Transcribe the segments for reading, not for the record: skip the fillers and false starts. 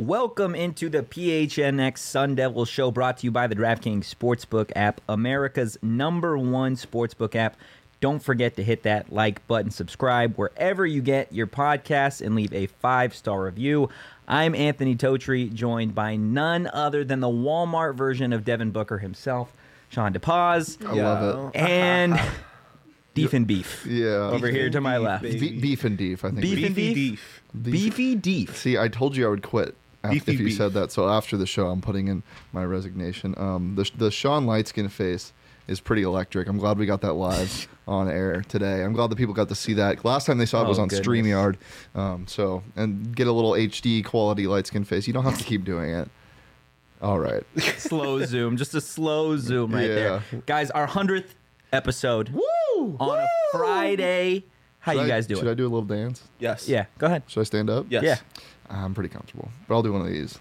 Welcome into the PHNX Sun Devil Show, brought to you by the DraftKings Sportsbook app, America's #1 sportsbook app. Don't forget to hit that like button, subscribe wherever you get your podcasts, and leave a 5-star review. I'm Anthony Totri, joined by none other than the Walmart version of Devin Booker himself, Sean DePaz. I love it. And Deef and Beef. Yeah. Over here to my left. Beef and Deef, I think. Beef and Deef? Beefy Deef. See, I told you I would quit if you beef. said that. So after the show, I'm putting in my resignation. The Sean Lightskin face is pretty electric. I'm glad we got that live on air today. I'm glad the people got to see that. Last time they saw it was on goodness. StreamYard. And get a little HD quality Lightskin face. You don't have to keep doing it. All right. Slow zoom. Just a slow zoom right Yeah. there. Guys, our 100th episode Woo! on a Friday. How you guys doing? Should I do a little dance? Yes. Yeah, go ahead. Should I stand up? Yes. Yeah. I'm pretty comfortable. But I'll do one of these.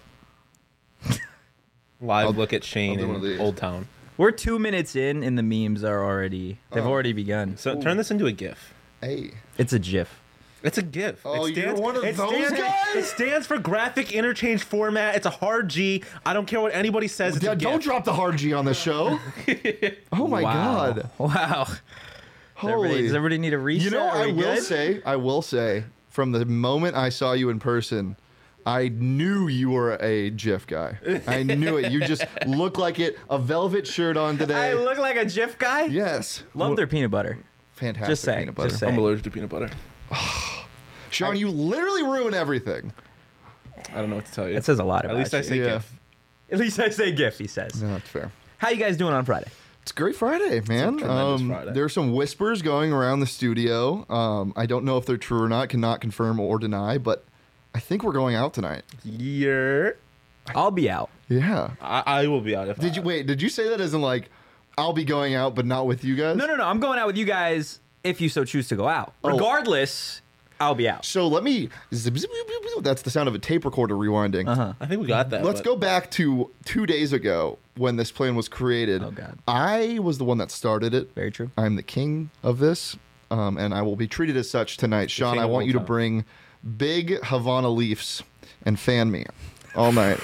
Live look at I'll Shane do one of these. in Old Town. We're 2 minutes in, and the memes are already, they've already begun. So turn this into a GIF. Hey. It's a GIF. It's a GIF. Oh, it you're one of it those stands, guys? It stands for graphic interchange format. It's a hard G. I don't care what anybody says. It's Yeah, a GIF. don't drop the hard G on the show. Oh my Wow. God. Wow. Holy. Does everybody need a reset? You know, Are we I will say, from the moment I saw you in person, I knew you were a GIF guy. I knew it. You just look like it. A velvet shirt on today. I look like a GIF guy? Yes. Love their peanut butter. Fantastic Just saying, peanut butter. just saying. I'm allergic to peanut butter. Sean, you literally ruin everything. I don't know what to tell you. That says a lot about At least I you. say Yeah. GIF. At least I say GIF, he says. No, that's fair. How you guys doing on Friday? It's a great Friday, man. tremendous Friday. There are some whispers going around the studio. I don't know if they're true or not, cannot confirm or deny, but I think we're going out tonight. I'll be out. Yeah. I will be out if Did you say that as in like, I'll be going out, but not with you guys? No. I'm going out with you guys if you so choose to go out. Oh. Regardless, I'll be out. So let me. That's the sound of a tape recorder rewinding. I think we got that. Let's but go back to 2 days ago when this plan was created. Oh, God. I was the one that started it. Very true. I'm the king of this, and I will be treated as such tonight. Sean, king I of want all you to time. bring big Havana Leafs and fan me all night.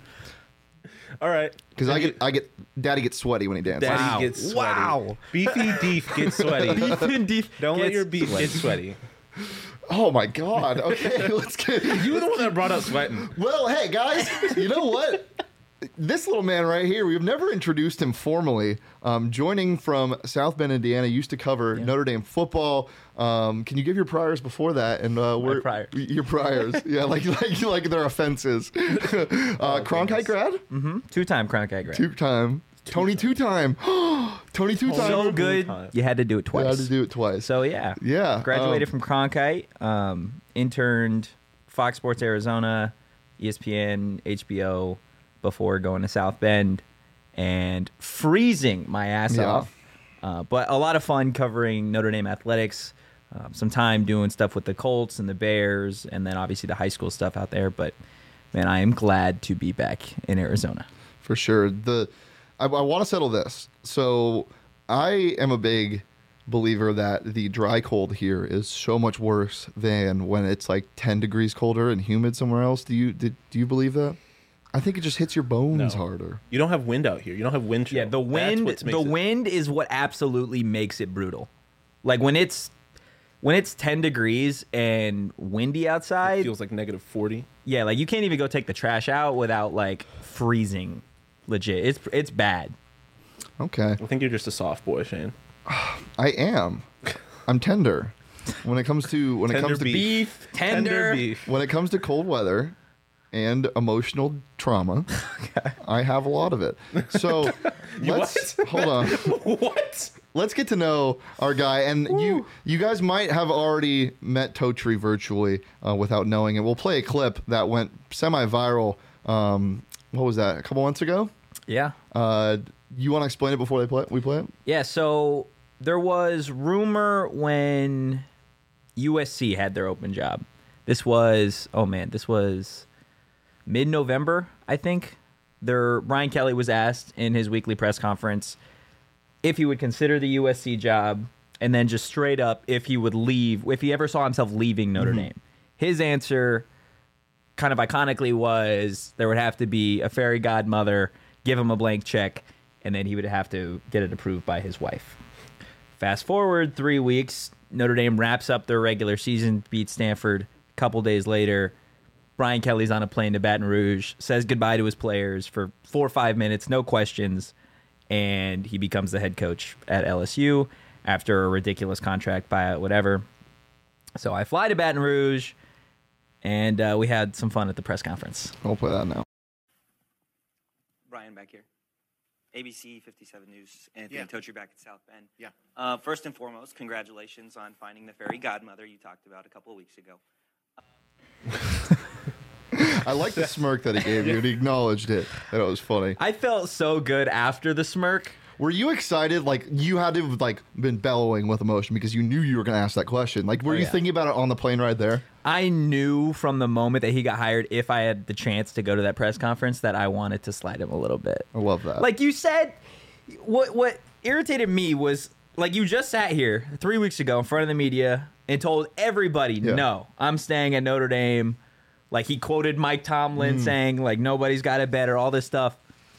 All right. Because Daddy gets sweaty when he dances. Daddy Wow. gets sweaty. Wow. Beefy Deef gets sweaty. Beef and Deef Don't let gets your beef sweaty. get sweaty. Oh my God. Okay, let's get. You were the one that brought up sweating. Well, hey guys, you know what? This little man right here, we've never introduced him formally. Joining from South Bend, Indiana, used to cover Notre Dame football. Can you give your priors before that? And priors. Your priors, yeah, like their offenses. Cronkite grad, 2-time Cronkite grad. 2-time. Tony 2-time. Tony 2-time. So good, you had to do it I twice. had to do it twice. So yeah. Yeah, Graduated from Cronkite, interned Fox Sports Arizona, ESPN, HBO before going to South Bend and freezing my ass Yeah. off. But a lot of fun covering Notre Dame athletics. Some time doing stuff with the Colts and the Bears, and then obviously the high school stuff out there. But man, I am glad to be back in Arizona. For sure. I want to settle this. So I am a big believer that the dry cold here is so much worse than when it's like 10 degrees colder and humid somewhere else. Do you believe that? I think it just hits your bones No. harder. You don't have wind out here. You don't have wind chill. Yeah, the wind is what absolutely makes it brutal. Like when it's 10 degrees and windy outside, It feels like negative 40. yeah, like you can't even go take the trash out without like freezing. Legit, it's bad. Okay. I think you're just a soft boy, Shane. I am. I'm tender. When it comes to Tender beef. Beef, tender. beef. When it comes to cold weather and emotional trauma, I have a lot of it. So let's hold on. What? Let's get to know our guy, and you guys might have already met Totri virtually without knowing it. We'll play a clip that went semi-viral. What was that? A couple months ago. Yeah, You want to explain it before we play it? yeah. So there was rumor when USC had their open job. This was mid-November, I think. Brian Kelly was asked in his weekly press conference if he would consider the USC job, and then just straight up if he would leave, if he ever saw himself leaving Notre Dame. His answer kind of iconically was there would have to be a fairy godmother, give him a blank check, and then he would have to get it approved by his wife. Fast forward 3 weeks, Notre Dame wraps up their regular season, beats Stanford. A couple days later, Brian Kelly's on a plane to Baton Rouge, says goodbye to his players for 4 or 5 minutes, no questions, and he becomes the head coach at LSU after a ridiculous contract buyout, whatever. So I fly to Baton Rouge, and we had some fun at the press conference. I'll play that now. Brian back here. ABC 57 News, Anthony Totri back at South Bend. Yeah. First and foremost, congratulations on finding the fairy godmother you talked about a couple of weeks ago. I like the smirk that he gave you. He acknowledged it. That it was funny. I felt so good after the smirk. Were you excited? Like, you had to have, like, been bellowing with emotion because you knew you were going to ask that question. Like, were you thinking about it on the plane ride there? I knew from the moment that he got hired, if I had the chance to go to that press conference, that I wanted to slide him a little bit. I love that. Like you said, what irritated me was, like, you just sat here 3 weeks ago in front of the media and told everybody, no, I'm staying at Notre Dame. Like, he quoted Mike Tomlin saying, like, nobody's got it better, all this stuff.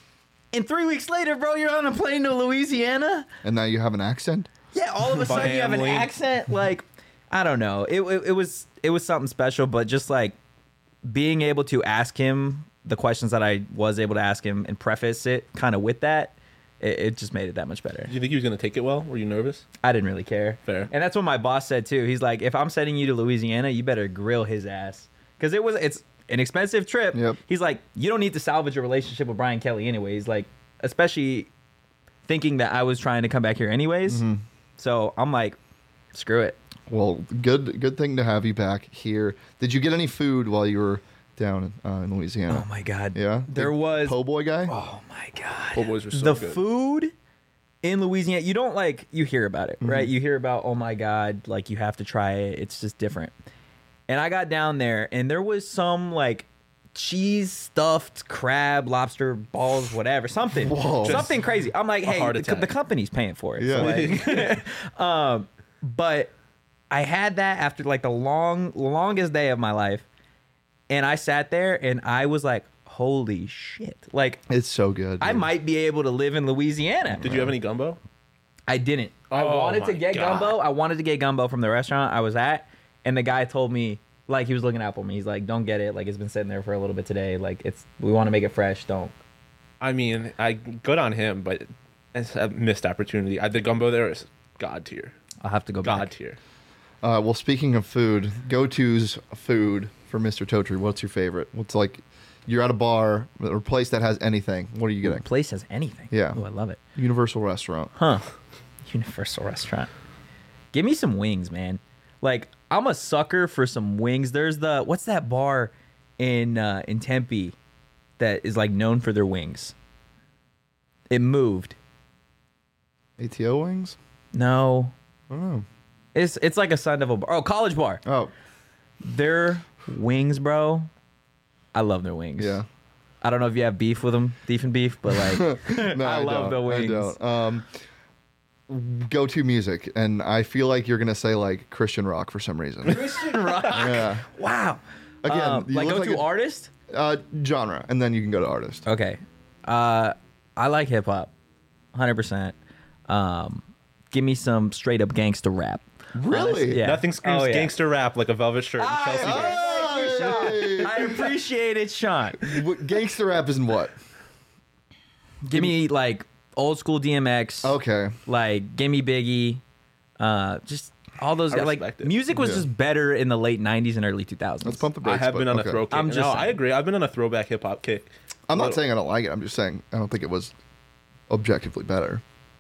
And 3 weeks later, bro, you're on a plane to Louisiana. And now you have an accent? Yeah, all of a sudden you have an accent. Like, I don't know. It was something special, but just like being able to ask him the questions that I was able to ask him and preface it kind of with that, it just made it that much better. Do you think he was going to take it well? Were you nervous? I didn't really care. Fair. And that's what my boss said too. He's like, if I'm sending you to Louisiana, you better grill his ass. Because it's an expensive trip. Yep. He's like, you don't need to salvage a relationship with Brian Kelly anyways. Like, especially thinking that I was trying to come back here anyways. So I'm like, screw it. Well, good thing to have you back here. Did you get any food while you were down in Louisiana? Oh my God. Yeah? There Big was. Po' boy guy? Oh my God. Po' boys were so the good. food in Louisiana, you don't like, you hear about it, right? You hear about, oh my God, like you have to try it. It's just different. And I got down there and there was some like cheese stuffed crab, lobster balls, whatever, something, Whoa. something crazy. I'm like, hey, heart the attack. company's paying for it. Yeah. So like, but I had that after like the longest day of my life. And I sat there and I was like, holy shit. Like, It's so good. I dude. might be able to live in Louisiana. Did you have any gumbo? I didn't. I Oh wanted to my get God. gumbo. I wanted to get gumbo from the restaurant I was at. And the guy told me, like, he was looking out for me. He's like, don't get it. Like, it's been sitting there for a little bit today. Like, we want to make it fresh. Don't. I mean, good on him, but it's a missed opportunity. The gumbo there is god tier. I'll have to go God back. tier. Well, speaking of food, go-to's food for Mr. Totri. What's your favorite? What's like, you're at a bar or place that has anything. What are you getting? Place has anything. Yeah. Oh, I love it. Universal restaurant. Huh. Universal restaurant. Give me some wings, man. Like, I'm a sucker for some wings. There's what's that bar in Tempe that is like known for their wings? It moved. ATO wings? No. I don't know. It's like a Sun Devil bar. Oh, College Bar. Oh, Their wings, bro. I love their wings. yeah. I don't know if you have beef with them, beef and beef, but like, No, I love the wings. I don't. Go-to music, and I feel like you're gonna say like Christian rock for some reason. Christian rock. Yeah. Wow. Again, you like look go like to a- artist. Genre, and then you can go to artist. Okay. I like hip hop, 100%. Give me some straight up gangster rap. Really? Yeah. Nothing screams Oh, yeah. gangster rap like a velvet shirt and Chelsea. Hey! I appreciate it, Sean. Gangster rap isn't what? Give me like old school DMX. Okay. Like give me Biggie. Just all those I guys. Like respect it. music was Yeah. just better in the late 90s and early 2000s. Let's pump the I brakes. have but been on okay. a throw kick. I'm just no, saying. I agree. I've been on a throwback hip hop kick. I'm not Little- saying I don't like it. I'm just saying I don't think it was objectively better.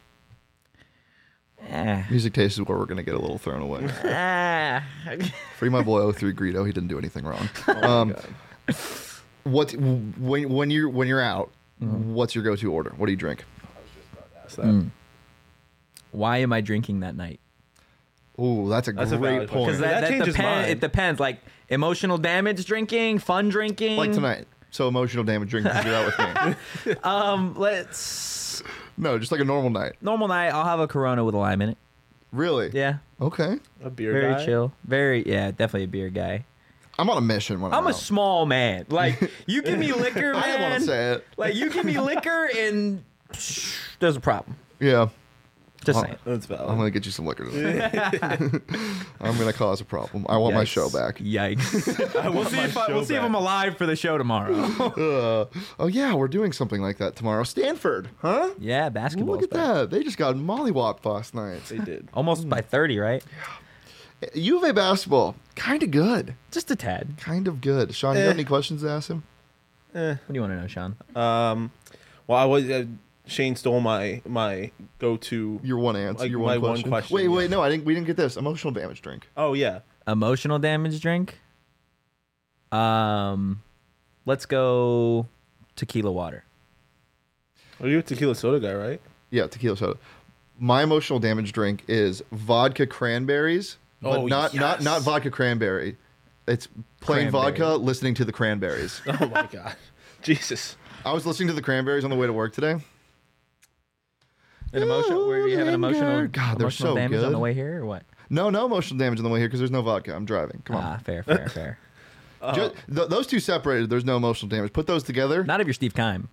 Music taste is where we're gonna get a little thrown away. Free my boy 03 Greedo. He didn't do anything wrong. Oh What when you're out? What's your go-to order? What do you drink? That's that. Why am I drinking that night? Ooh, that's a That's a great valid point. Because That changes mine. it depends. Like emotional damage drinking, fun drinking. Like tonight. So emotional damage drinking because you're out with me. Let's No, just like a normal night. normal night. I'll have a Corona with a lime in it. Really? Yeah, Okay. A beer very guy. chill. Very definitely a beer guy. I'm on a mission when I'm I'm a out. small man. Like, you give me liquor, man. I didn't want to say it. Like, you give me liquor and there's a problem. Yeah. Just Oh. saying. That's valid. I'm gonna get you some liquor today. I'm gonna cause a problem. I want my Yikes. show back. Yikes. We'll see if I'm alive for the show tomorrow. Oh yeah, we're doing something like that tomorrow. Stanford, huh? Yeah, basketball. Look at that. They just got mollywopped last night. They did. Almost by 30, right? U of A basketball, kind of good. Just a tad. Kind of good. Sean, you got any questions to ask him? What do you want to know, Sean? Well, I was Shane stole my go-to. Your one answer. Like your my one one question. question, Wait, yeah. no, we didn't get this. Emotional damage drink. Oh yeah. Emotional damage drink? Let's go tequila water. Are you a tequila soda guy, right? Yeah, tequila soda. My emotional damage drink is vodka cranberries, but Oh, not yes. vodka cranberry. It's plain Cranberry. vodka. Listening to the Cranberries. Oh my god. Jesus. I was listening to the Cranberries on the way to work today. An emotional? Were you having emotional? God, they're emotional so damage on the good. way here, or what? No emotional damage on the way here because there's no vodka. I'm driving. Come on. Ah, fair. Those two separated. There's no emotional damage. Put those together. Not if you're Steve Kime.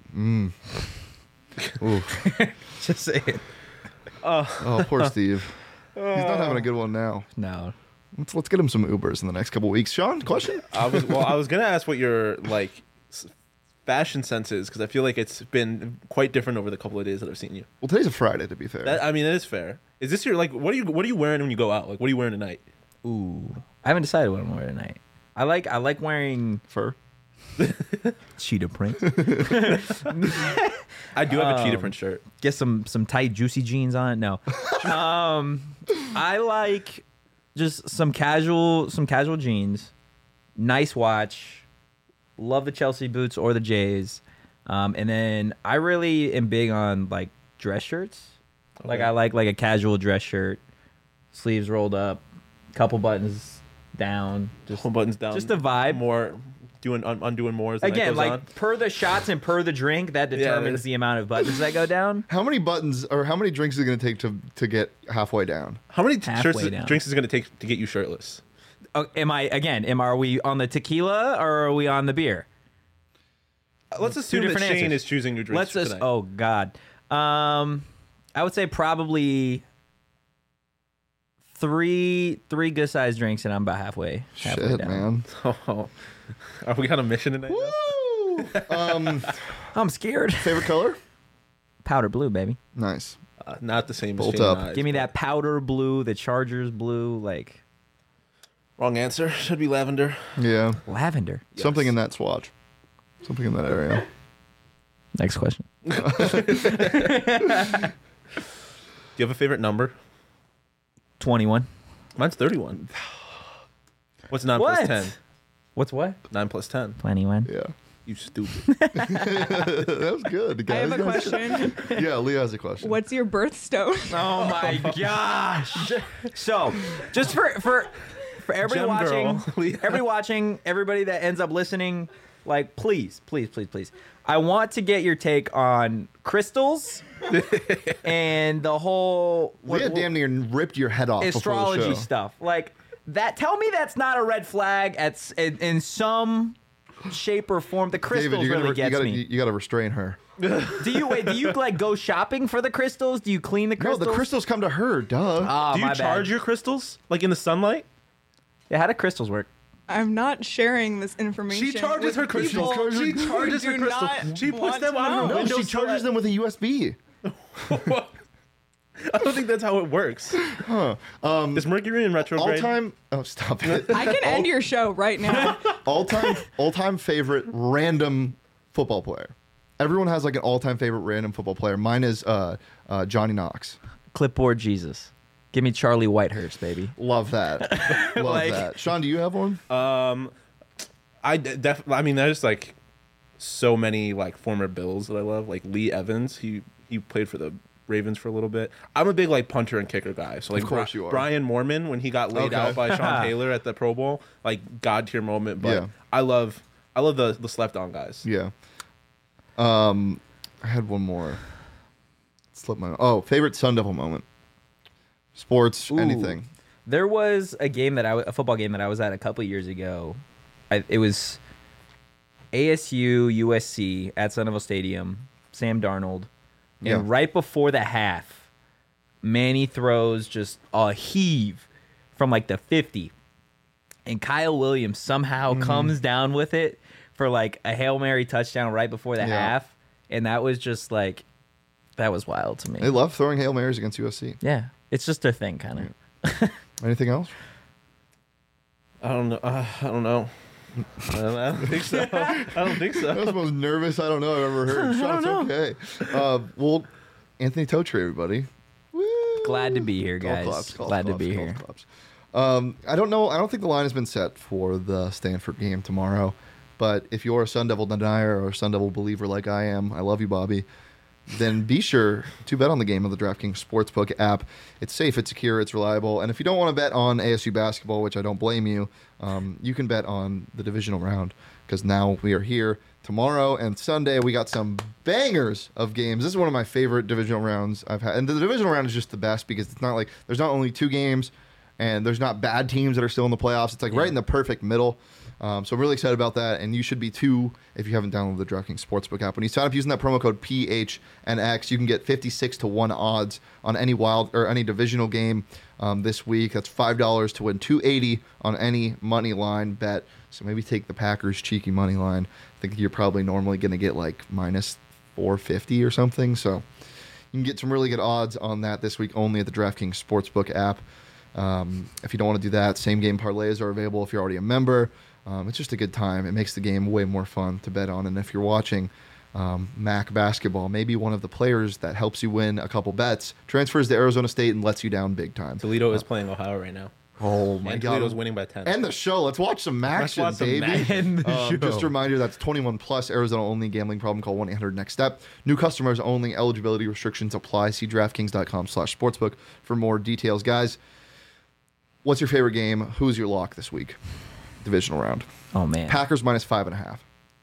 Ooh. Just saying. Oh, poor Steve. He's not having a good one now. No. Let's get him some Ubers in the next couple weeks. Sean, question? I was gonna ask what your like fashion sense is because I feel like it's been quite different over the couple of days that I've seen you. Well, today's a Friday, to be fair. That, I mean, that is fair. Is this your like what are you wearing when you go out? Like what are you wearing tonight? Ooh. I haven't decided what I'm wearing tonight. I like wearing Fur. cheetah print. I do have a cheetah print shirt. Get some tight juicy jeans on it. No. I like just some casual jeans, nice watch, love the Chelsea boots or the Jays. And then I really am big on like dress shirts. Like I like a casual dress shirt, sleeves rolled up, couple buttons down, just Pull buttons down. just a vibe. More undoing more as the night Again, goes like on. per the shots and per the drink, that determines the amount of buttons that go down. How many buttons or how many drinks is it going to take to get halfway down? How many halfway down. drinks is it going to take to get you shirtless? Oh, are we on the tequila or are we on the beer? Let's assume that different Shane answers. is choosing your drinks Let's tonight. oh god. I would say probably three good sized drinks and I'm about halfway Shit, down. man. Oh. Are we on a mission tonight? Woo! I'm scared. Favorite color? Powder blue, baby. Nice. Not the same as Bolt Shane up. and I. Give me that powder blue, the Chargers blue, like Wrong answer. Should be lavender. Yeah. lavender. Something in that swatch. Something in that area. Next question. Do you have a favorite number? 21. Mine's 31. What's 9 plus What? 10? What's what? 9 plus 10. 21. Yeah. You stupid. That was good, I guys. have a question. Yeah, Leah has a question. What's your birthstone? Oh my gosh. So, just for everybody Gem watching, girl. everybody that ends up listening, like please. I want to get your take on crystals and the whole Leah damn near ripped your head off before the astrology show. stuff. Like that tell me that's not a red flag in some shape or form. The crystals David, really gets me. you gotta restrain her. Do you like go shopping for the crystals? Do you clean the No, crystals? the crystals come to her, duh. Oh, Do you my charge bad. your crystals? Like in the sunlight? Yeah, how do crystals work? I'm not sharing this information. She charges with her crystals. people She who charges her do crystals. not She puts want them to on her know. No, window she so charges them with a USB. I don't think that's how it works. Is Mercury in All retrograde? time. Oh, stop it. I can end your show right now. all time favorite random football player. Everyone has like an all time favorite random football player. Mine is Johnny Knox. Clipboard Jesus. Give me Charlie Whitehurst, baby. Love that. Love Like- that. Sean, do you have one? I mean, there's like so many like former Bills that I love. Like Lee Evans, he played for the Ravens for a little bit. I'm a big like punter and kicker guy. So like Of course you are. Brian Mormon when he got laid Okay. out by Sean Taylor at the Pro Bowl, like god tier moment. But Yeah. I love the slept on guys. Yeah. I had one more. Slipped my. Oh, favorite Sun Devil moment. Sports, Ooh. anything. There was a football game that I was at a couple years ago. It was ASU USC at Sun Devil Stadium. Sam Darnold, and right before the half, Manny throws just a heave from like the 50, and Kyle Williams somehow comes down with it for like a Hail Mary touchdown right before the half, and that was just like that was wild to me. They love throwing Hail Marys against USC. Yeah, it's just their thing, kind of. Anything else? I don't know. I don't think so. I don't think That was so. the most nervous I don't know I've ever heard. Sean's okay. Well, Anthony Totri, everybody. Woo! Glad to be here, guys. Golf Glad to claps, be golf here. claps. I don't know. I don't think the line has been set for the Stanford game tomorrow. But if you're a Sun Devil denier or a Sun Devil believer like I am, I love you, Bobby, then be sure to bet on the game of the DraftKings Sportsbook app. It's safe, it's secure, it's reliable. And if you don't want to bet on ASU basketball, which I don't blame you, you can bet on the divisional round because now we are here tomorrow and Sunday. We got some bangers of games. This is one of my favorite divisional rounds I've had. And the divisional round is just the best because it's not like there's not only 2 games and there's not bad teams that are still in the playoffs. It's like right in the perfect middle. So I'm really excited about that, and you should be too if you haven't downloaded the DraftKings Sportsbook app. When you sign up using that promo code PHNX, you can get 56-1 odds on any wild or any divisional game this week. That's $5 to win $280 on any money line bet. So maybe take the Packers cheeky money line. I think you're probably normally going to get like minus 450 or something. So you can get some really good odds on that this week only at the DraftKings Sportsbook app. If you don't want to do that, same game parlays are available if you're already a member. It's just a good time. It makes the game way more fun to bet on. And if you're watching MAC basketball, maybe one of the players that helps you win a couple bets transfers to Arizona State and lets you down big time. Toledo is playing Ohio right now. Oh my And God! Toledo's winning by 10. End the show. Let's watch some action, watch some baby. action. Just a reminder, that's 21 plus, Arizona only. Gambling problem? Call 1-800-NEXT-STEP. New customers only. Eligibility restrictions apply. See DraftKings.com/sportsbook for more details, guys. What's your favorite game? Who's your lock this week? Divisional round. Oh man, Packers minus 5.5.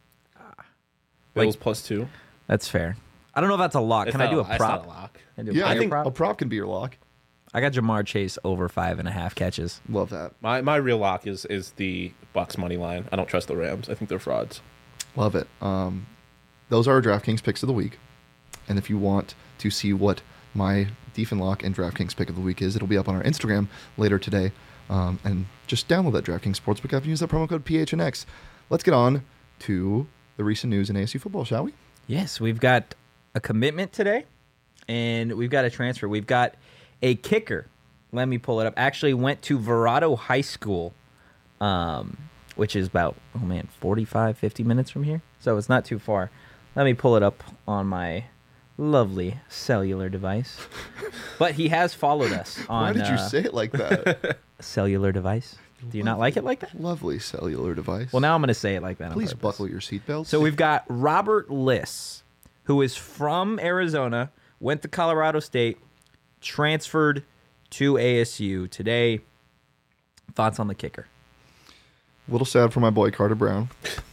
Bills +2. that's fair. I don't know if that's a lock. Can I do a It's not prop? a lock. Can I do a Yeah, I player think prop? a prop can be your lock. I got Jamar Chase over 5.5 catches. Love that. My real lock is the Bucks money line. I don't trust the Rams. I think they're frauds. Love it. Those are our DraftKings picks of the week. And if you want to see what my Diefenlock and DraftKings pick of the week is, it'll be up on our Instagram later today. And just download that DraftKings Sportsbook app and use that promo code PHNX. Let's get on to the recent news in ASU football, shall we? Yes, we've got a commitment today, and we've got a transfer. We've got a kicker. Let me pull it up. Actually went to Verrado High School, which is about, 45, 50 minutes from here. So it's not too far. Let me pull it up on my lovely cellular device. But he has followed us on Why did you say it like that? cellular device. Do you not like it like that? Lovely cellular device. Well, now I'm going to say it like that. on Please purpose. buckle your seatbelts. So we've got Robert Liss, who is from Arizona, went to Colorado State, transferred to ASU today. Thoughts on the kicker? a little sad for my boy Carter Brown.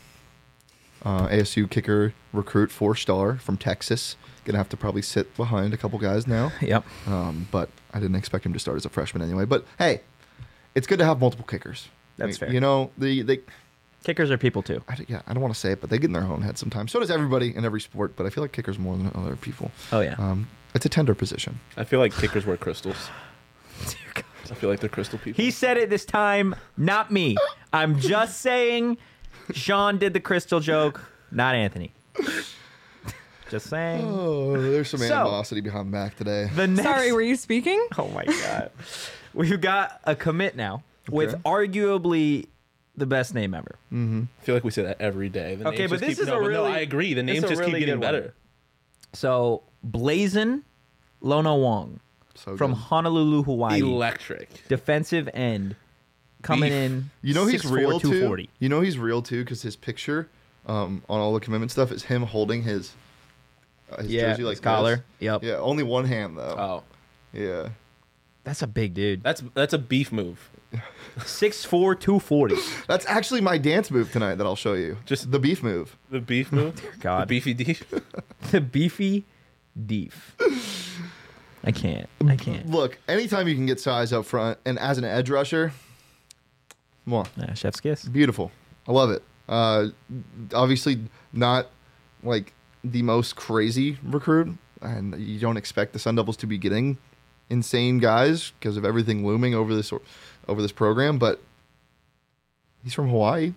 ASU kicker recruit 4-star from Texas. Gonna have to probably sit behind a couple guys now. Yep. But I didn't expect him to start as a freshman anyway. But hey, it's good to have multiple kickers. That's fair. You know, they Kickers are people too. I don't want to say it, but they get in their own head sometimes. So does everybody in every sport. But I feel like kickers more than other people. Oh, yeah. It's a tender position. I feel like kickers wear crystals. I feel like they're crystal people. He said it this time, not me. I'm just saying Sean did the crystal joke, not Anthony. Just saying. Oh, there's some So- animosity behind Mac today. The next... Sorry, were you speaking? Oh, my God. We've got a commit now with Okay. arguably the best name ever. I feel like we say that every day. The Okay, names but just this keep, is no, a but really- no, I agree. The this is names a just really keep getting good one. better. So, Blazin Lono Wong So from good. Honolulu, Hawaii. Electric. Defensive end coming Beef. in. You know he's 6'4", real too. 240. You know he's real too because his picture on all the commitment stuff is him holding his jersey like his collar. this. Yep. Yeah, only one hand though. Oh, Yeah. That's a big dude. that's a beef move. 6'4", 240. That's actually my dance move tonight that I'll show you. Just- the beef move. The beef move. God. The beefy deef. The beefy deef. I can't. Look, anytime you can get size up front, and as an edge rusher, come on, Chef's kiss. beautiful. I love it. Obviously, not like the most crazy recruit, and you don't expect the Sun Devils to be getting insane guys because of everything looming over this program. But he's from Hawaii.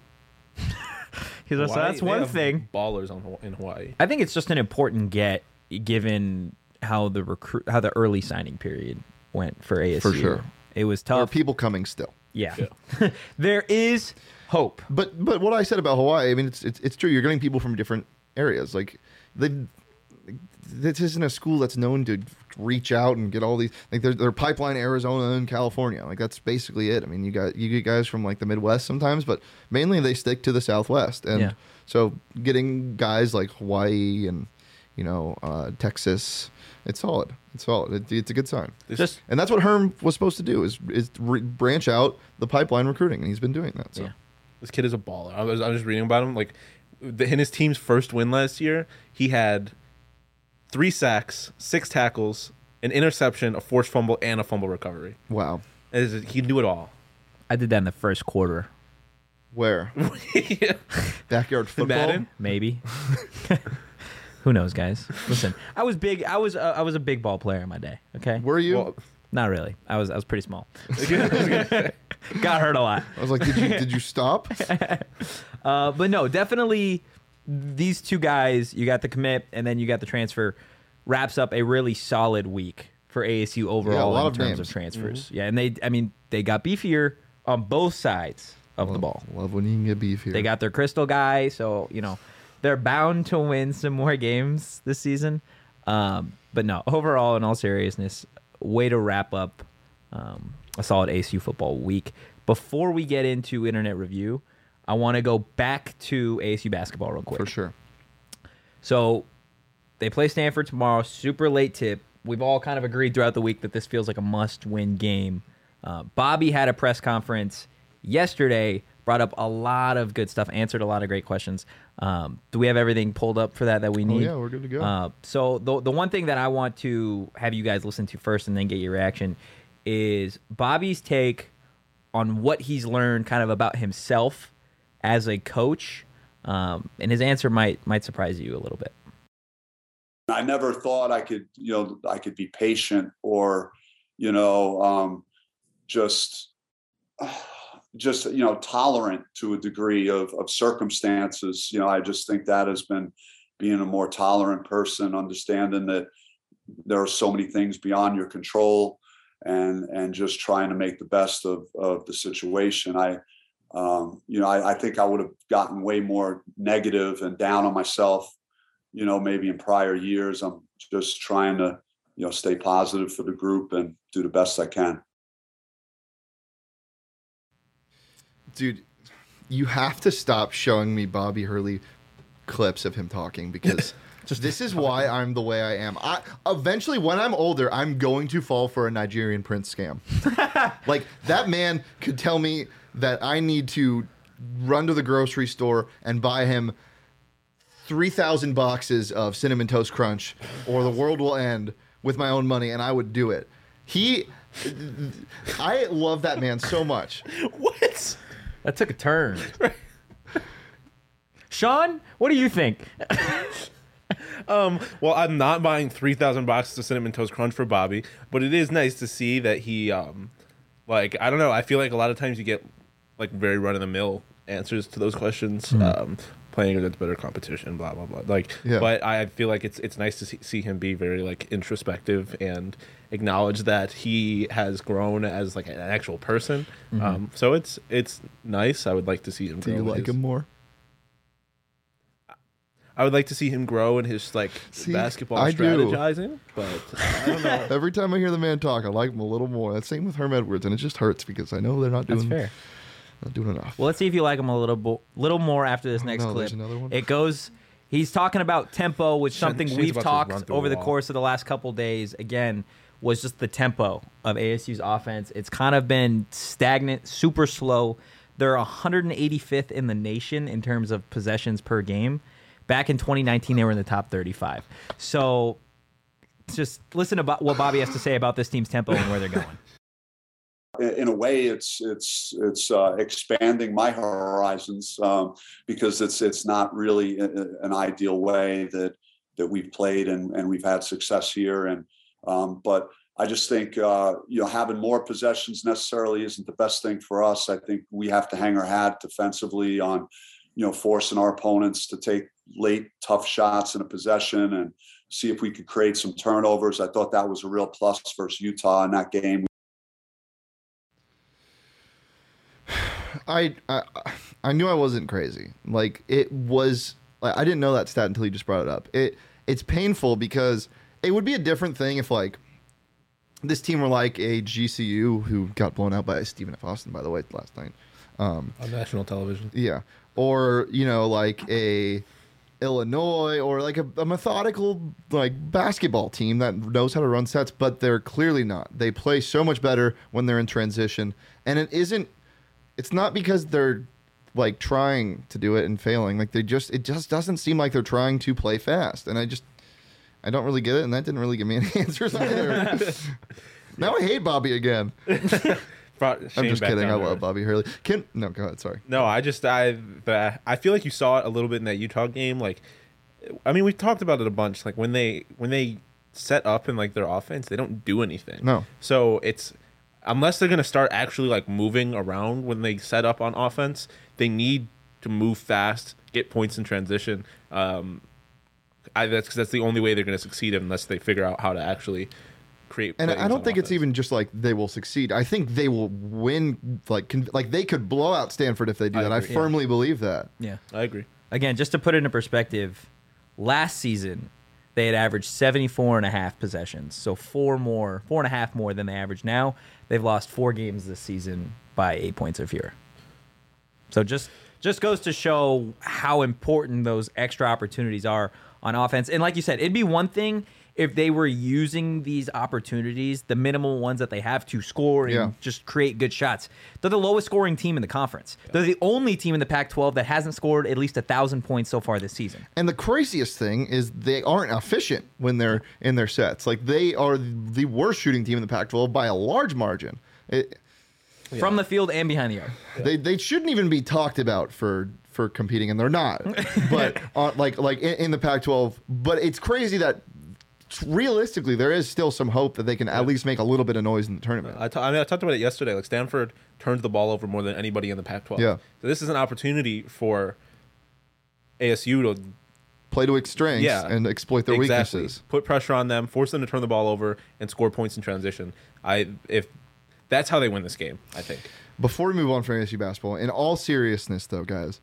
So Hawaii, that's they one have thing. Ballers in Hawaii. I think it's just an important get given how the early signing period went for ASU. For sure. It was There are tough. people coming still. Yeah. There is hope. But what I said about Hawaii, I mean, it's true. You're getting people from different areas. Like this isn't a school that's known to reach out and get all these. Like they're Pipeline, Arizona, and California. Like that's basically it. I mean, you get guys from like the Midwest sometimes, but mainly they stick to the Southwest. And so getting guys like Hawaii and Texas, it's solid. It's solid. It's a good sign. And that's what Herm was supposed to do is branch out the pipeline recruiting, and he's been doing that. So. Yeah. This kid is a baller. I was just reading about him. Like in his team's first win last year, he had 3 sacks, 6 tackles, an interception, a forced fumble, and a fumble recovery. Wow. He can do it all. I did that in the first quarter. Where? Backyard football? Madden? Maybe. Who knows, guys? Listen, I was big. I was a big ball player in my day. Okay. Were you? Well, Not really. I was pretty small. Got hurt a lot. I was like, did you stop? But no, definitely these two guys, you got the commit and then you got the transfer, wraps up a really solid week for ASU overall lot in of terms names. of transfers. Yeah, and they got beefier on both sides of the ball. Love when you can get beef here. They got their crystal guy, so they're bound to win some more games this season. But no, overall, in all seriousness, way to wrap up a solid ASU football week. Before we get into internet review, I want to go back to ASU basketball real quick. for sure. So they play Stanford tomorrow, super late tip. We've all kind of agreed throughout the week that this feels like a must-win game. Bobby had a press conference yesterday, brought up a lot of good stuff, answered a lot of great questions. Do we have everything pulled up for that we need? Oh, yeah, we're good to go. So the one thing that I want to have you guys listen to first and then get your reaction is Bobby's take on what he's learned kind of about himself as a coach. And his answer might surprise you a little bit. I never thought I could be patient or, just tolerant to a degree of circumstances. I just think that has been being a more tolerant person, understanding that there are so many things beyond your control and just trying to make the best of the situation. I think I would have gotten way more negative and down on myself, maybe in prior years. I'm just trying to, stay positive for the group and do the best I can. Dude, you have to stop showing me Bobby Hurley clips of him talking because this is why I'm the way I am. Eventually, when I'm older, I'm going to fall for a Nigerian prince scam. Like, that man could tell me that I need to run to the grocery store and buy him 3,000 boxes of Cinnamon Toast Crunch or the world will end with my own money, and I would do it. I love that man so much. What? That took a turn. Sean, what do you think? Well, I'm not buying 3,000 boxes of Cinnamon Toast Crunch for Bobby, but it is nice to see that he, I don't know. I feel like a lot of times you get like very run of the mill answers to those questions. Playing against better competition, blah blah blah. But I feel like it's nice to see him be very like introspective and acknowledge that he has grown as like an actual person. So it's nice. I would like to see him. Do you like him more? I would like to see him grow in his basketball I do. strategizing, but I don't know. Every time I hear the man talk, I like him a little more. That's same with Herm Edwards, and it just hurts because I know they're not That's doing fair. not doing enough. Well, let's see if you like him a little more after this next no, clip. there's another one? It goes. He's talking about tempo, which something Shane's we've about to run talked through a over the wall. course of the last couple days. Again, was just the tempo of ASU's offense. It's kind of been stagnant, super slow. They're 185th in the nation in terms of possessions per game. Back in 2019, they were in the top 35. So just listen to what Bobby has to say about this team's tempo and where they're going. In a way, it's expanding my horizons because it's not really an ideal way that we've played and we've had success here. And but I just think having more possessions necessarily isn't the best thing for us. I think we have to hang our hat defensively on forcing our opponents to take late tough shots in a possession and see if we could create some turnovers. I thought that was a real plus versus Utah in that game. I knew I wasn't crazy. Like, it was, like, I didn't know that stat until you just brought it up. It's painful because it would be a different thing if, like, this team were like a GCU who got blown out by Stephen F. Austin, by the way, last night. On national television. Yeah. Or, like a Illinois or like a methodical, like, basketball team that knows how to run sets, but they're clearly not. They play so much better when they're in transition. And it's not because they're, like, trying to do it and failing. Like, it just doesn't seem like they're trying to play fast. And I don't really get it, and that didn't really give me any answers either. Now I hate Bobby again. I'm just kidding. I love Bobby Hurley. No, go ahead. Sorry. No, I feel like you saw it a little bit in that Utah game. Like, I mean, we talked about it a bunch. Like, when they set up in, like, their offense, they don't do anything. No. So it's, unless they're gonna start actually, like, moving around when they set up on offense, they need to move fast, get points in transition. That's the only way they're gonna succeed unless they figure out how to actually create. And I don't think it's even just like they will succeed. I think they will win. Like they could blow out Stanford if they do that. I firmly believe that. Yeah, I agree. Again, just to put it into perspective, last season they had averaged 74.5 possessions, so 4.5 more than they average now. They've lost 4 games this season by 8 points or fewer. So just goes to show how important those extra opportunities are on offense. And like you said, it'd be one thing if they were using these opportunities, the minimal ones that they have, to score and just create good shots. They're the lowest scoring team in the conference. Yeah. They're the only team in the Pac-12 that hasn't scored at least 1,000 points so far this season. And the craziest thing is they aren't efficient when they're in their sets. Like, they are the worst shooting team in the Pac-12 by a large margin. From the field and behind the arc. Yeah. They shouldn't even be talked about for competing, and they're not. But in the Pac-12. But it's crazy that realistically there is still some hope that they can at least make a little bit of noise in the tournament. I talked about it yesterday. Like, Stanford turns the ball over more than anybody in the Pac-12. Yeah. So this is an opportunity for ASU to play to its strengths and exploit their weaknesses. Put pressure on them, force them to turn the ball over, and score points in transition. If that's how they win this game, I think. Before we move on from ASU basketball, in all seriousness, though, guys,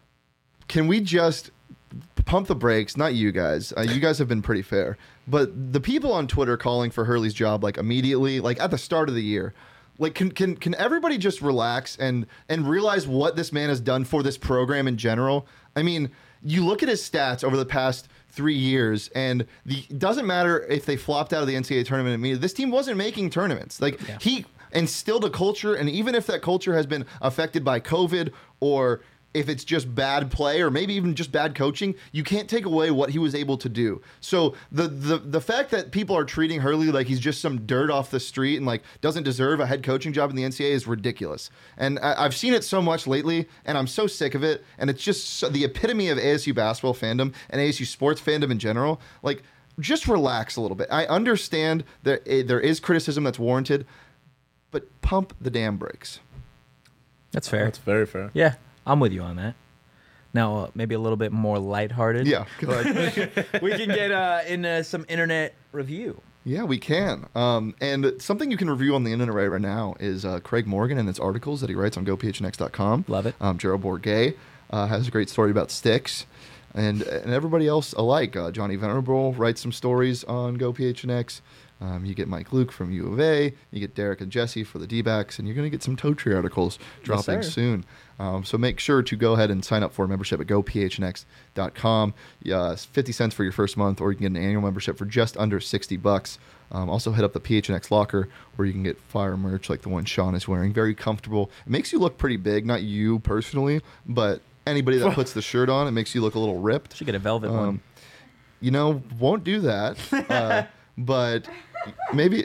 can we just pump the brakes? Not you guys. You guys have been pretty fair. But the people on Twitter calling for Hurley's job, like, immediately, like, at the start of the year, like, can everybody just relax and realize what this man has done for this program in general? I mean, you look at his stats over the past 3 years, and it doesn't matter if they flopped out of the NCAA tournament immediately. This team wasn't making tournaments. Like, he instilled a culture, and even if that culture has been affected by COVID, or if it's just bad play, or maybe even just bad coaching, you can't take away what he was able to do. So the fact that people are treating Hurley like he's just some dirt off the street and, like, doesn't deserve a head coaching job in the NCAA is ridiculous. And I've seen it so much lately, and I'm so sick of it. And it's just the epitome of ASU basketball fandom and ASU sports fandom in general. Like, just relax a little bit. I understand that there is criticism that's warranted, but pump the damn brakes. That's fair. That's very fair. Yeah, I'm with you on that. Now, maybe a little bit more lighthearted. Yeah, go ahead. We can get into some internet review. Yeah, we can. And something you can review on the internet right now is Craig Morgan and his articles that he writes on GoPHNX.com. Love it. Gerald Bourget has a great story about sticks. And everybody else alike. Johnny Venerable writes some stories on GoPHNX. You get Mike Luke from U of A. You get Derek and Jesse for the D-backs. And you're going to get some Toe Tree articles dropping soon. So make sure to go ahead and sign up for a membership at GoPHNX.com. 50 cents for your first month, or you can get an annual membership for just under $60. Also hit up the PHNX locker where you can get fire merch like the one Sean is wearing. Very comfortable. It makes you look pretty big. Not you personally, but anybody that puts the shirt on, it makes you look a little ripped. Should get a velvet one. Won't do that. but maybe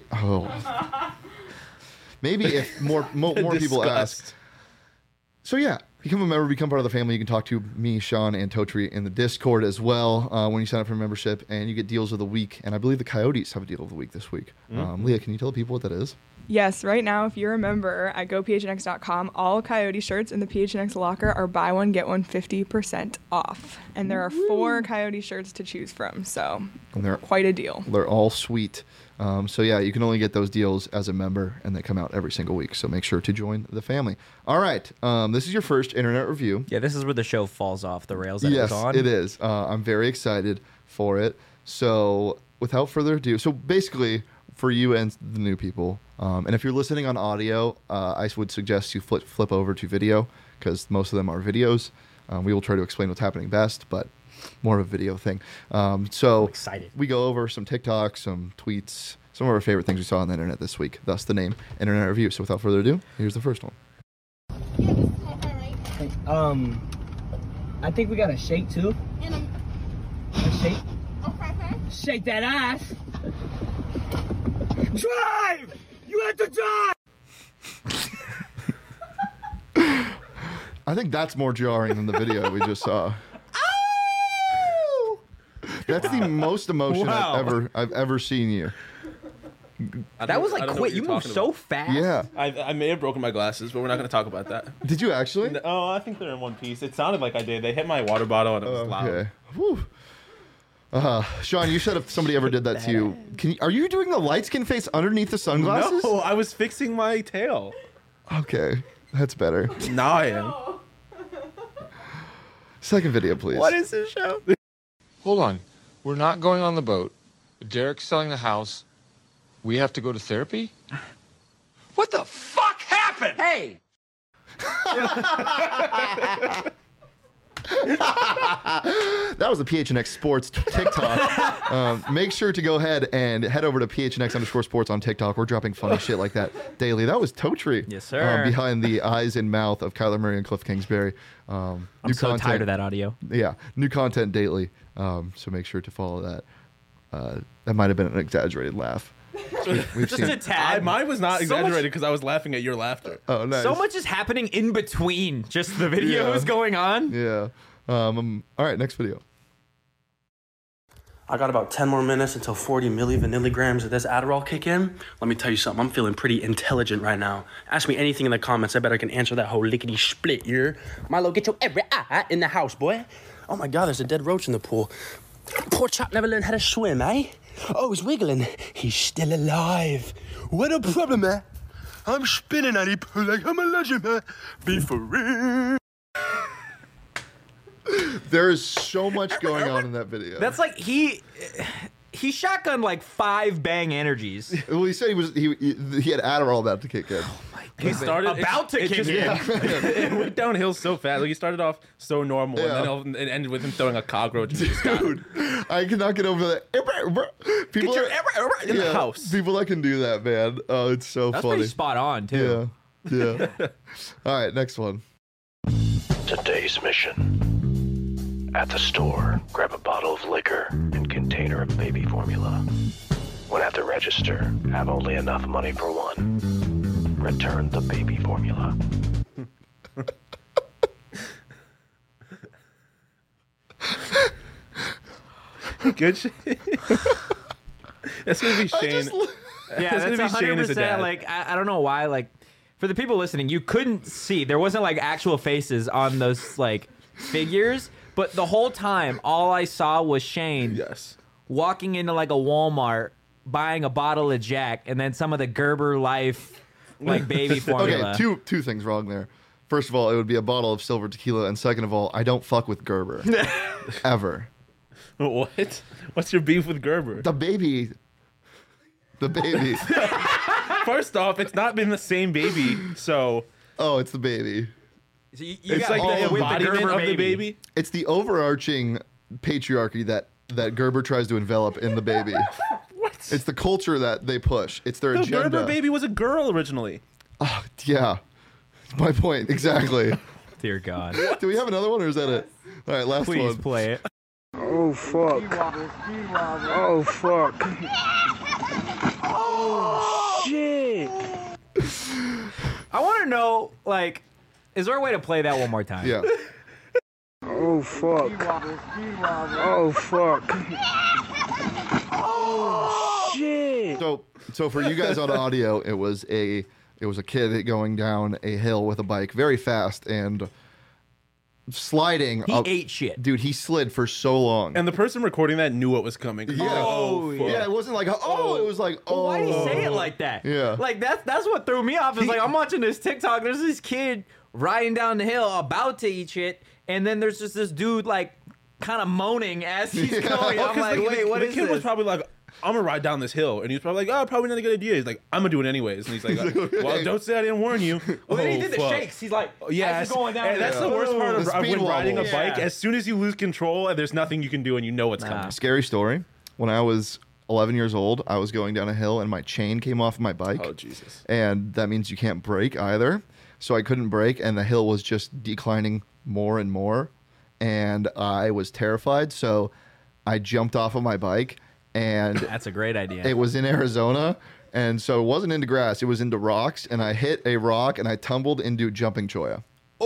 if more people ask. Disgust. So yeah, become a member, become part of the family. You can talk to me, Sean, and Totri in the Discord as well when you sign up for membership, and you get deals of the week. And I believe the Coyotes have a deal of the week this week. Leah, can you tell people what that is? Yes, right now, if you're a member at gophnx.com, all Coyote shirts in the PHNX locker are buy one, get one 50% off. And there are 4 Coyote shirts to choose from, so And they're quite a deal. They're all sweet. So yeah, you can only get those deals as a member, and they come out every single week. So make sure to join the family. All right, this is your first internet review. Yeah, this is where the show falls off the rails that it Yes, was on. it is. I'm very excited for it. So without further ado, so basically for you and the new people, and if you're listening on audio, I would suggest you flip over to video because most of them are videos. We will try to explain what's happening best, but more of a video thing. So excited. we go over some TikToks, some tweets, some of our favorite things we saw on the internet this week. Thus the name Internet Review. So without further ado, here's the first one. I think we got a shake too. A shake. Okay. Shake that ass. Drive! You have to drive! I think that's more jarring than the video we just saw. That's the most emotion Wow. I've ever seen you. That was I like don't know quick. what You you're moved talking so about. fast. Yeah. I may have broken my glasses, but we're not going to talk about that. Did you actually? Oh, I think they're in one piece. It sounded like I did. They hit my water bottle and it was loud. Okay. Whew. Sean, you said if somebody ever did that to you, are you doing the light skin face underneath the sunglasses? No, I was fixing my tail. Okay, that's better. Now I am. Second video, please. What is this show? Hold on. We're not going on the boat. Derek's selling the house. We have to go to therapy? What the fuck happened? Hey! That was the PHNX Sports TikTok. Make sure to go ahead and head over to PHNX_sports on TikTok. We're dropping funny shit like that daily. That was Totri. Yes, sir. Behind the eyes and mouth of Kyler Murray and Cliff Kingsbury. I'm so tired of that audio. Yeah, new content daily. So make sure to follow that. That might have been an exaggerated laugh. We've Just seen. a tad. Mine was not So exaggerated much- because I was laughing at your laughter. Oh, nice. So much is happening in between just the videos Yeah. going on. Yeah. All right, next video. I got about 10 more minutes until 40 milligrams of this Adderall kick in. Let me tell you something, I'm feeling pretty intelligent right now. Ask me anything in the comments, I bet I can answer that whole lickety split here. Milo, get your every eye in the house, boy. Oh my God, there's a dead roach in the pool. Poor chap never learned how to swim, eh? Oh, he's wiggling. He's still alive. What a problem, eh? I'm spinning at it like I'm a legend, man. Be for real. There is so much going on in that video. That's like he shotgunned like 5 Bang Energies. Well, he said he had Adderall about to kick in. He started About to kick in. It went downhill so fast. Like he started off so normal, Yeah. and then it ended with him throwing a cockroach. And just got Dude, I cannot get over that. People Get your that- in the house. People that can do that, man. Oh, it's so That's funny. pretty spot on too. Yeah. All right, next one. Today's mission. At the store, grab a bottle of liquor and container of baby formula. When at the register, have only enough money for one. Return the baby formula. good shit. That's gonna be Shane. Yeah, It's gonna that's be Shane as a 100%. dad. Like I don't know why. Like for the people listening, you couldn't see. There wasn't like actual faces on those like figures, but the whole time, all I saw was Shane Yes. walking into like a Walmart, buying a bottle of Jack, and then some of the Gerber Life like baby formula. Okay, two things wrong there. First of all, it would be a bottle of silver tequila, and second of all, I don't fuck with Gerber. Ever. What? What's your beef with Gerber? The baby. First off, it's not been the same baby, so Oh, it's the baby. So you it's gotta like go the with embodiment Gerber of the baby. It's the overarching patriarchy that Gerber tries to envelop in the baby. What? It's the culture that they push. It's their The agenda. Gerber baby was a girl originally. Oh, yeah. My point, exactly. Dear God. Do we have another one or is that it? All right, last Please one. play it. Oh, fuck. Oh, fuck. Oh, shit. I want to know, like, is there a way to play that one more time? Yeah. Oh, fuck. Oh, fuck. Oh, shit. So for you guys on audio, it was a kid going down a hill with a bike very fast and sliding. He ate shit. Dude, he slid for so long. And the person recording that knew what was coming. Yeah. Oh, fuck. Yeah, it wasn't like, it was like, Well, why did he say it like that? Yeah. Like, that's what threw me off. It's like, I'm watching this TikTok. There's this kid riding down the hill about to eat shit. And then there's just this dude, like, kind of moaning as he's going. I'm like, wait, what is the kid was this? probably like, I'm gonna ride down this hill, and he's probably like, oh, probably not a good idea. He's like, I'm gonna do it anyways, and he's like, well, don't say I didn't warn you. Well, then he did the fuck. shakes. He's like, Yeah, as he's going down. and that's the worst part of The speed when riding a wobbles. bike. Yeah. As soon as you lose control, and there's nothing you can do, and you know what's coming. Scary story. When I was 11 years old, I was going down a hill and my chain came off my bike. Oh, Jesus. And that means you can't brake either. So I couldn't brake, and the hill was just declining more and more. And I was terrified. So I jumped off of my bike, and That's a great idea. it was in Arizona. And so it wasn't into grass, it was into rocks. And I hit a rock and I tumbled into jumping choya.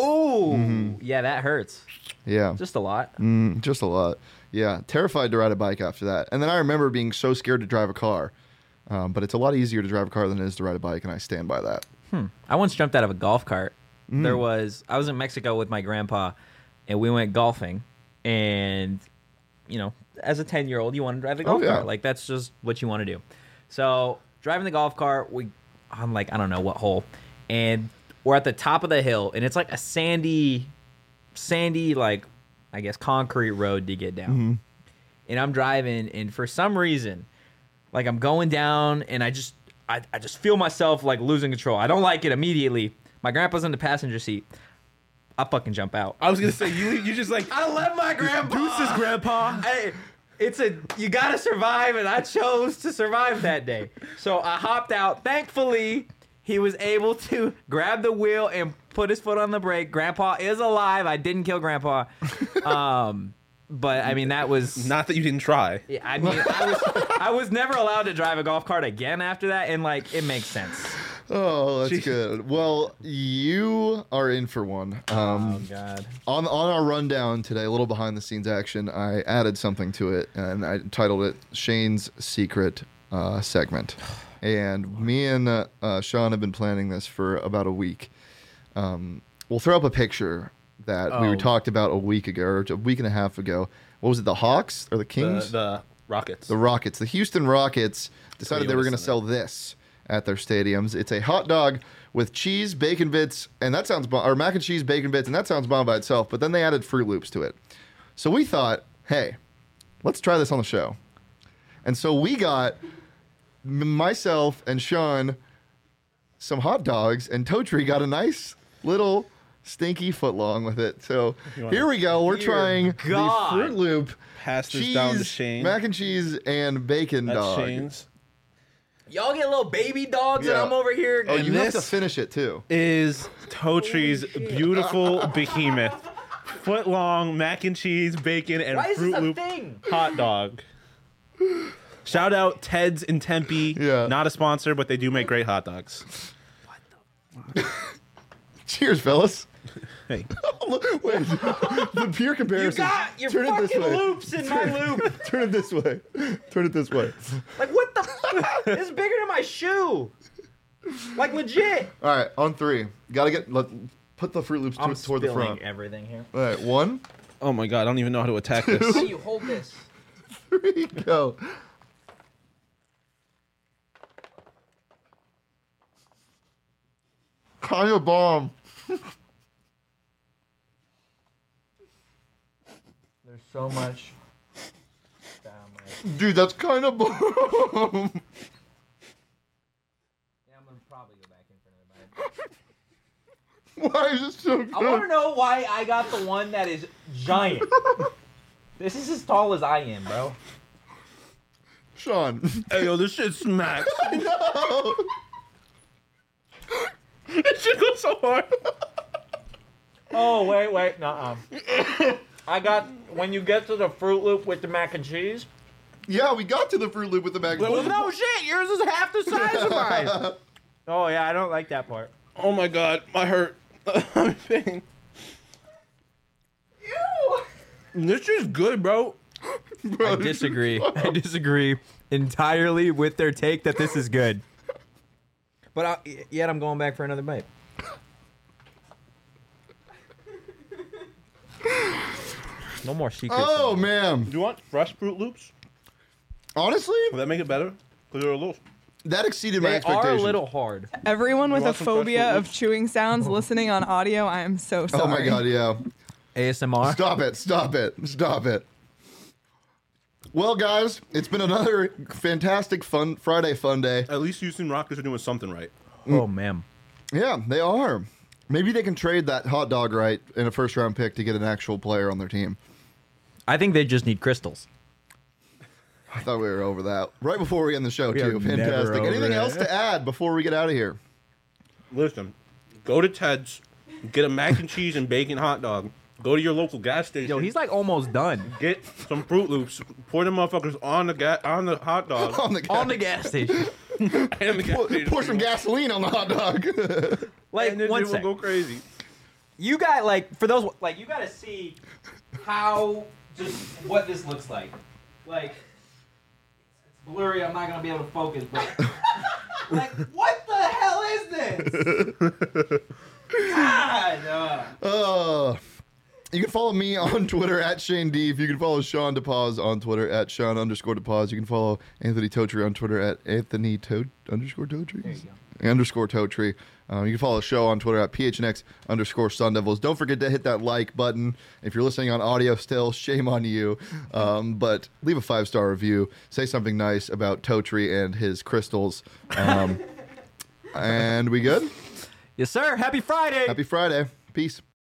Oh, yeah, that hurts. Yeah. Just a lot. Just a lot. Yeah. Terrified to ride a bike after that. And then I remember being so scared to drive a car. But it's a lot easier to drive a car than it is to ride a bike. And I stand by that. I once jumped out of a golf cart. I was in Mexico with my grandpa, and we went golfing. And, you know, as a 10-year-old, you want to drive the golf cart. Like, that's just what you want to do. So, driving the golf cart, I'm like, I don't know what hole. And we're at the top of the hill, and it's like a sandy, like, I guess, concrete road to get down. And I'm driving, and for some reason, like, I'm going down, and I just feel myself, like, losing control. I don't like it immediately. My grandpa's in the passenger seat. I fucking jump out. I was gonna say you just like I left my grandpa. Deuces, grandpa. Hey, you gotta survive, and I chose to survive that day. So I hopped out. Thankfully, he was able to grab the wheel and put his foot on the brake. Grandpa is alive. I didn't kill Grandpa. But I mean, that was not that you didn't try. Yeah, I mean, I was never allowed to drive a golf cart again after that, and like it makes sense. Oh, that's good. Well, you are in for one. Oh God! On our rundown today, a little behind the scenes action, I added something to it, and I titled it Shane's Secret Segment. And me and Sean have been planning this for about a week. We'll throw up a picture that we talked about a week ago, or a week and a half ago. What was it, the Hawks or the Kings? The Rockets. The Rockets. The Houston Rockets decided they were going to sell this at their stadiums. It's a hot dog with cheese, bacon bits, and that sounds bomb, or mac and cheese, bacon bits, and that sounds bomb by itself, but then they added Fruit Loops to it. So we thought, hey, let's try this on the show. And so we got myself and Sean some hot dogs, and Totri got a nice little stinky footlong with it. So here we go. We're trying the Fruit Loop Pass this cheese, down to Shane. mac and cheese, and bacon That's dog. Shane's. Y'all get little baby dogs, and I'm over here. Oh, you have to this finish it too. Is Totri's beautiful behemoth. Foot long mac and cheese, bacon, and Why is Fruit this a Loop thing? hot dog. Shout out Ted's in Tempe. Yeah. Not a sponsor, but they do make great hot dogs. Cheers, fellas. Hey. Wait, the beer comparison. You got your Turn it this fucking way. loops in my loop. Turn it this way. Turn it this way. Like, what the fuck? It's bigger than my shoe. Like, legit. All right, on three. Put the Fruit Loops toward the front. Everything here. All right, 1, Oh my god, I don't even know how to attack this. How do you hold this? 3, go. Kind of bomb. There's so much. Dude, that's kind of bomb. Yeah, I'm gonna probably go back in for another bite. Why is it so good? I want to know why I got the one that is giant. This is as tall as I am, bro. Sean. Hey, yo, this shit smacks. I know. This shit goes so hard. Oh, wait, nuh-uh. I got, when you get to the Fruit Loop with the mac and cheese, Yeah, we got to the Fruit Loop with the bag. Well, No shit, yours is half the size of mine. Oh yeah, I don't like that part. Oh my god, my hurt. I'm in pain. Ew. This is good, bro. I disagree. I disagree entirely with their take that this is good. But yet I'm going back for another bite. No more secrets. Oh man! Do you want fresh Fruit Loops? Honestly, Will that make it better? Because they're a little. that exceeded my They are expectations. a little hard. Everyone with a want some fresh phobia Fruit of Loops? chewing sounds listening on audio, I am so sorry. Oh my god! Yeah. ASMR. Stop it! Stop it! Stop it! Well, guys, it's been another fantastic fun Friday fun day. At least Houston Rockets are doing something right. Oh man. Yeah, they are. Maybe they can trade that hot dog right in a first round pick to get an actual player on their team. I think they just need crystals. I thought we were over that. Right before we end the show, We too. are never Fantastic. over Anything it. else to add before we get out of here? Listen, go to Ted's, get a mac and cheese and bacon hot dog. Go to your local gas station. Yo, he's like almost done. Get some Fruit Loops. Pour them motherfuckers on the hot dog. On the On the gas station. and the gas station. Pour some gasoline on the hot dog. Like And then one it will sec. go crazy. You got for those you got to see how just what this looks like. Like it's blurry. I'm not gonna be able to focus, but like what the hell is this? God. You can follow me on Twitter at Shane Deef. You can follow Sean DePaz on Twitter at Sean_DePaz. You can follow Anthony Totri on Twitter at Anthony_Totri. _Totri. You can follow the show on Twitter at PHNX_Sun Devils. Don't forget to hit that like button. If you're listening on audio still, shame on you. But leave a 5-star review. Say something nice about Totri and his crystals. And we good? Yes, sir. Happy Friday. Happy Friday. Peace.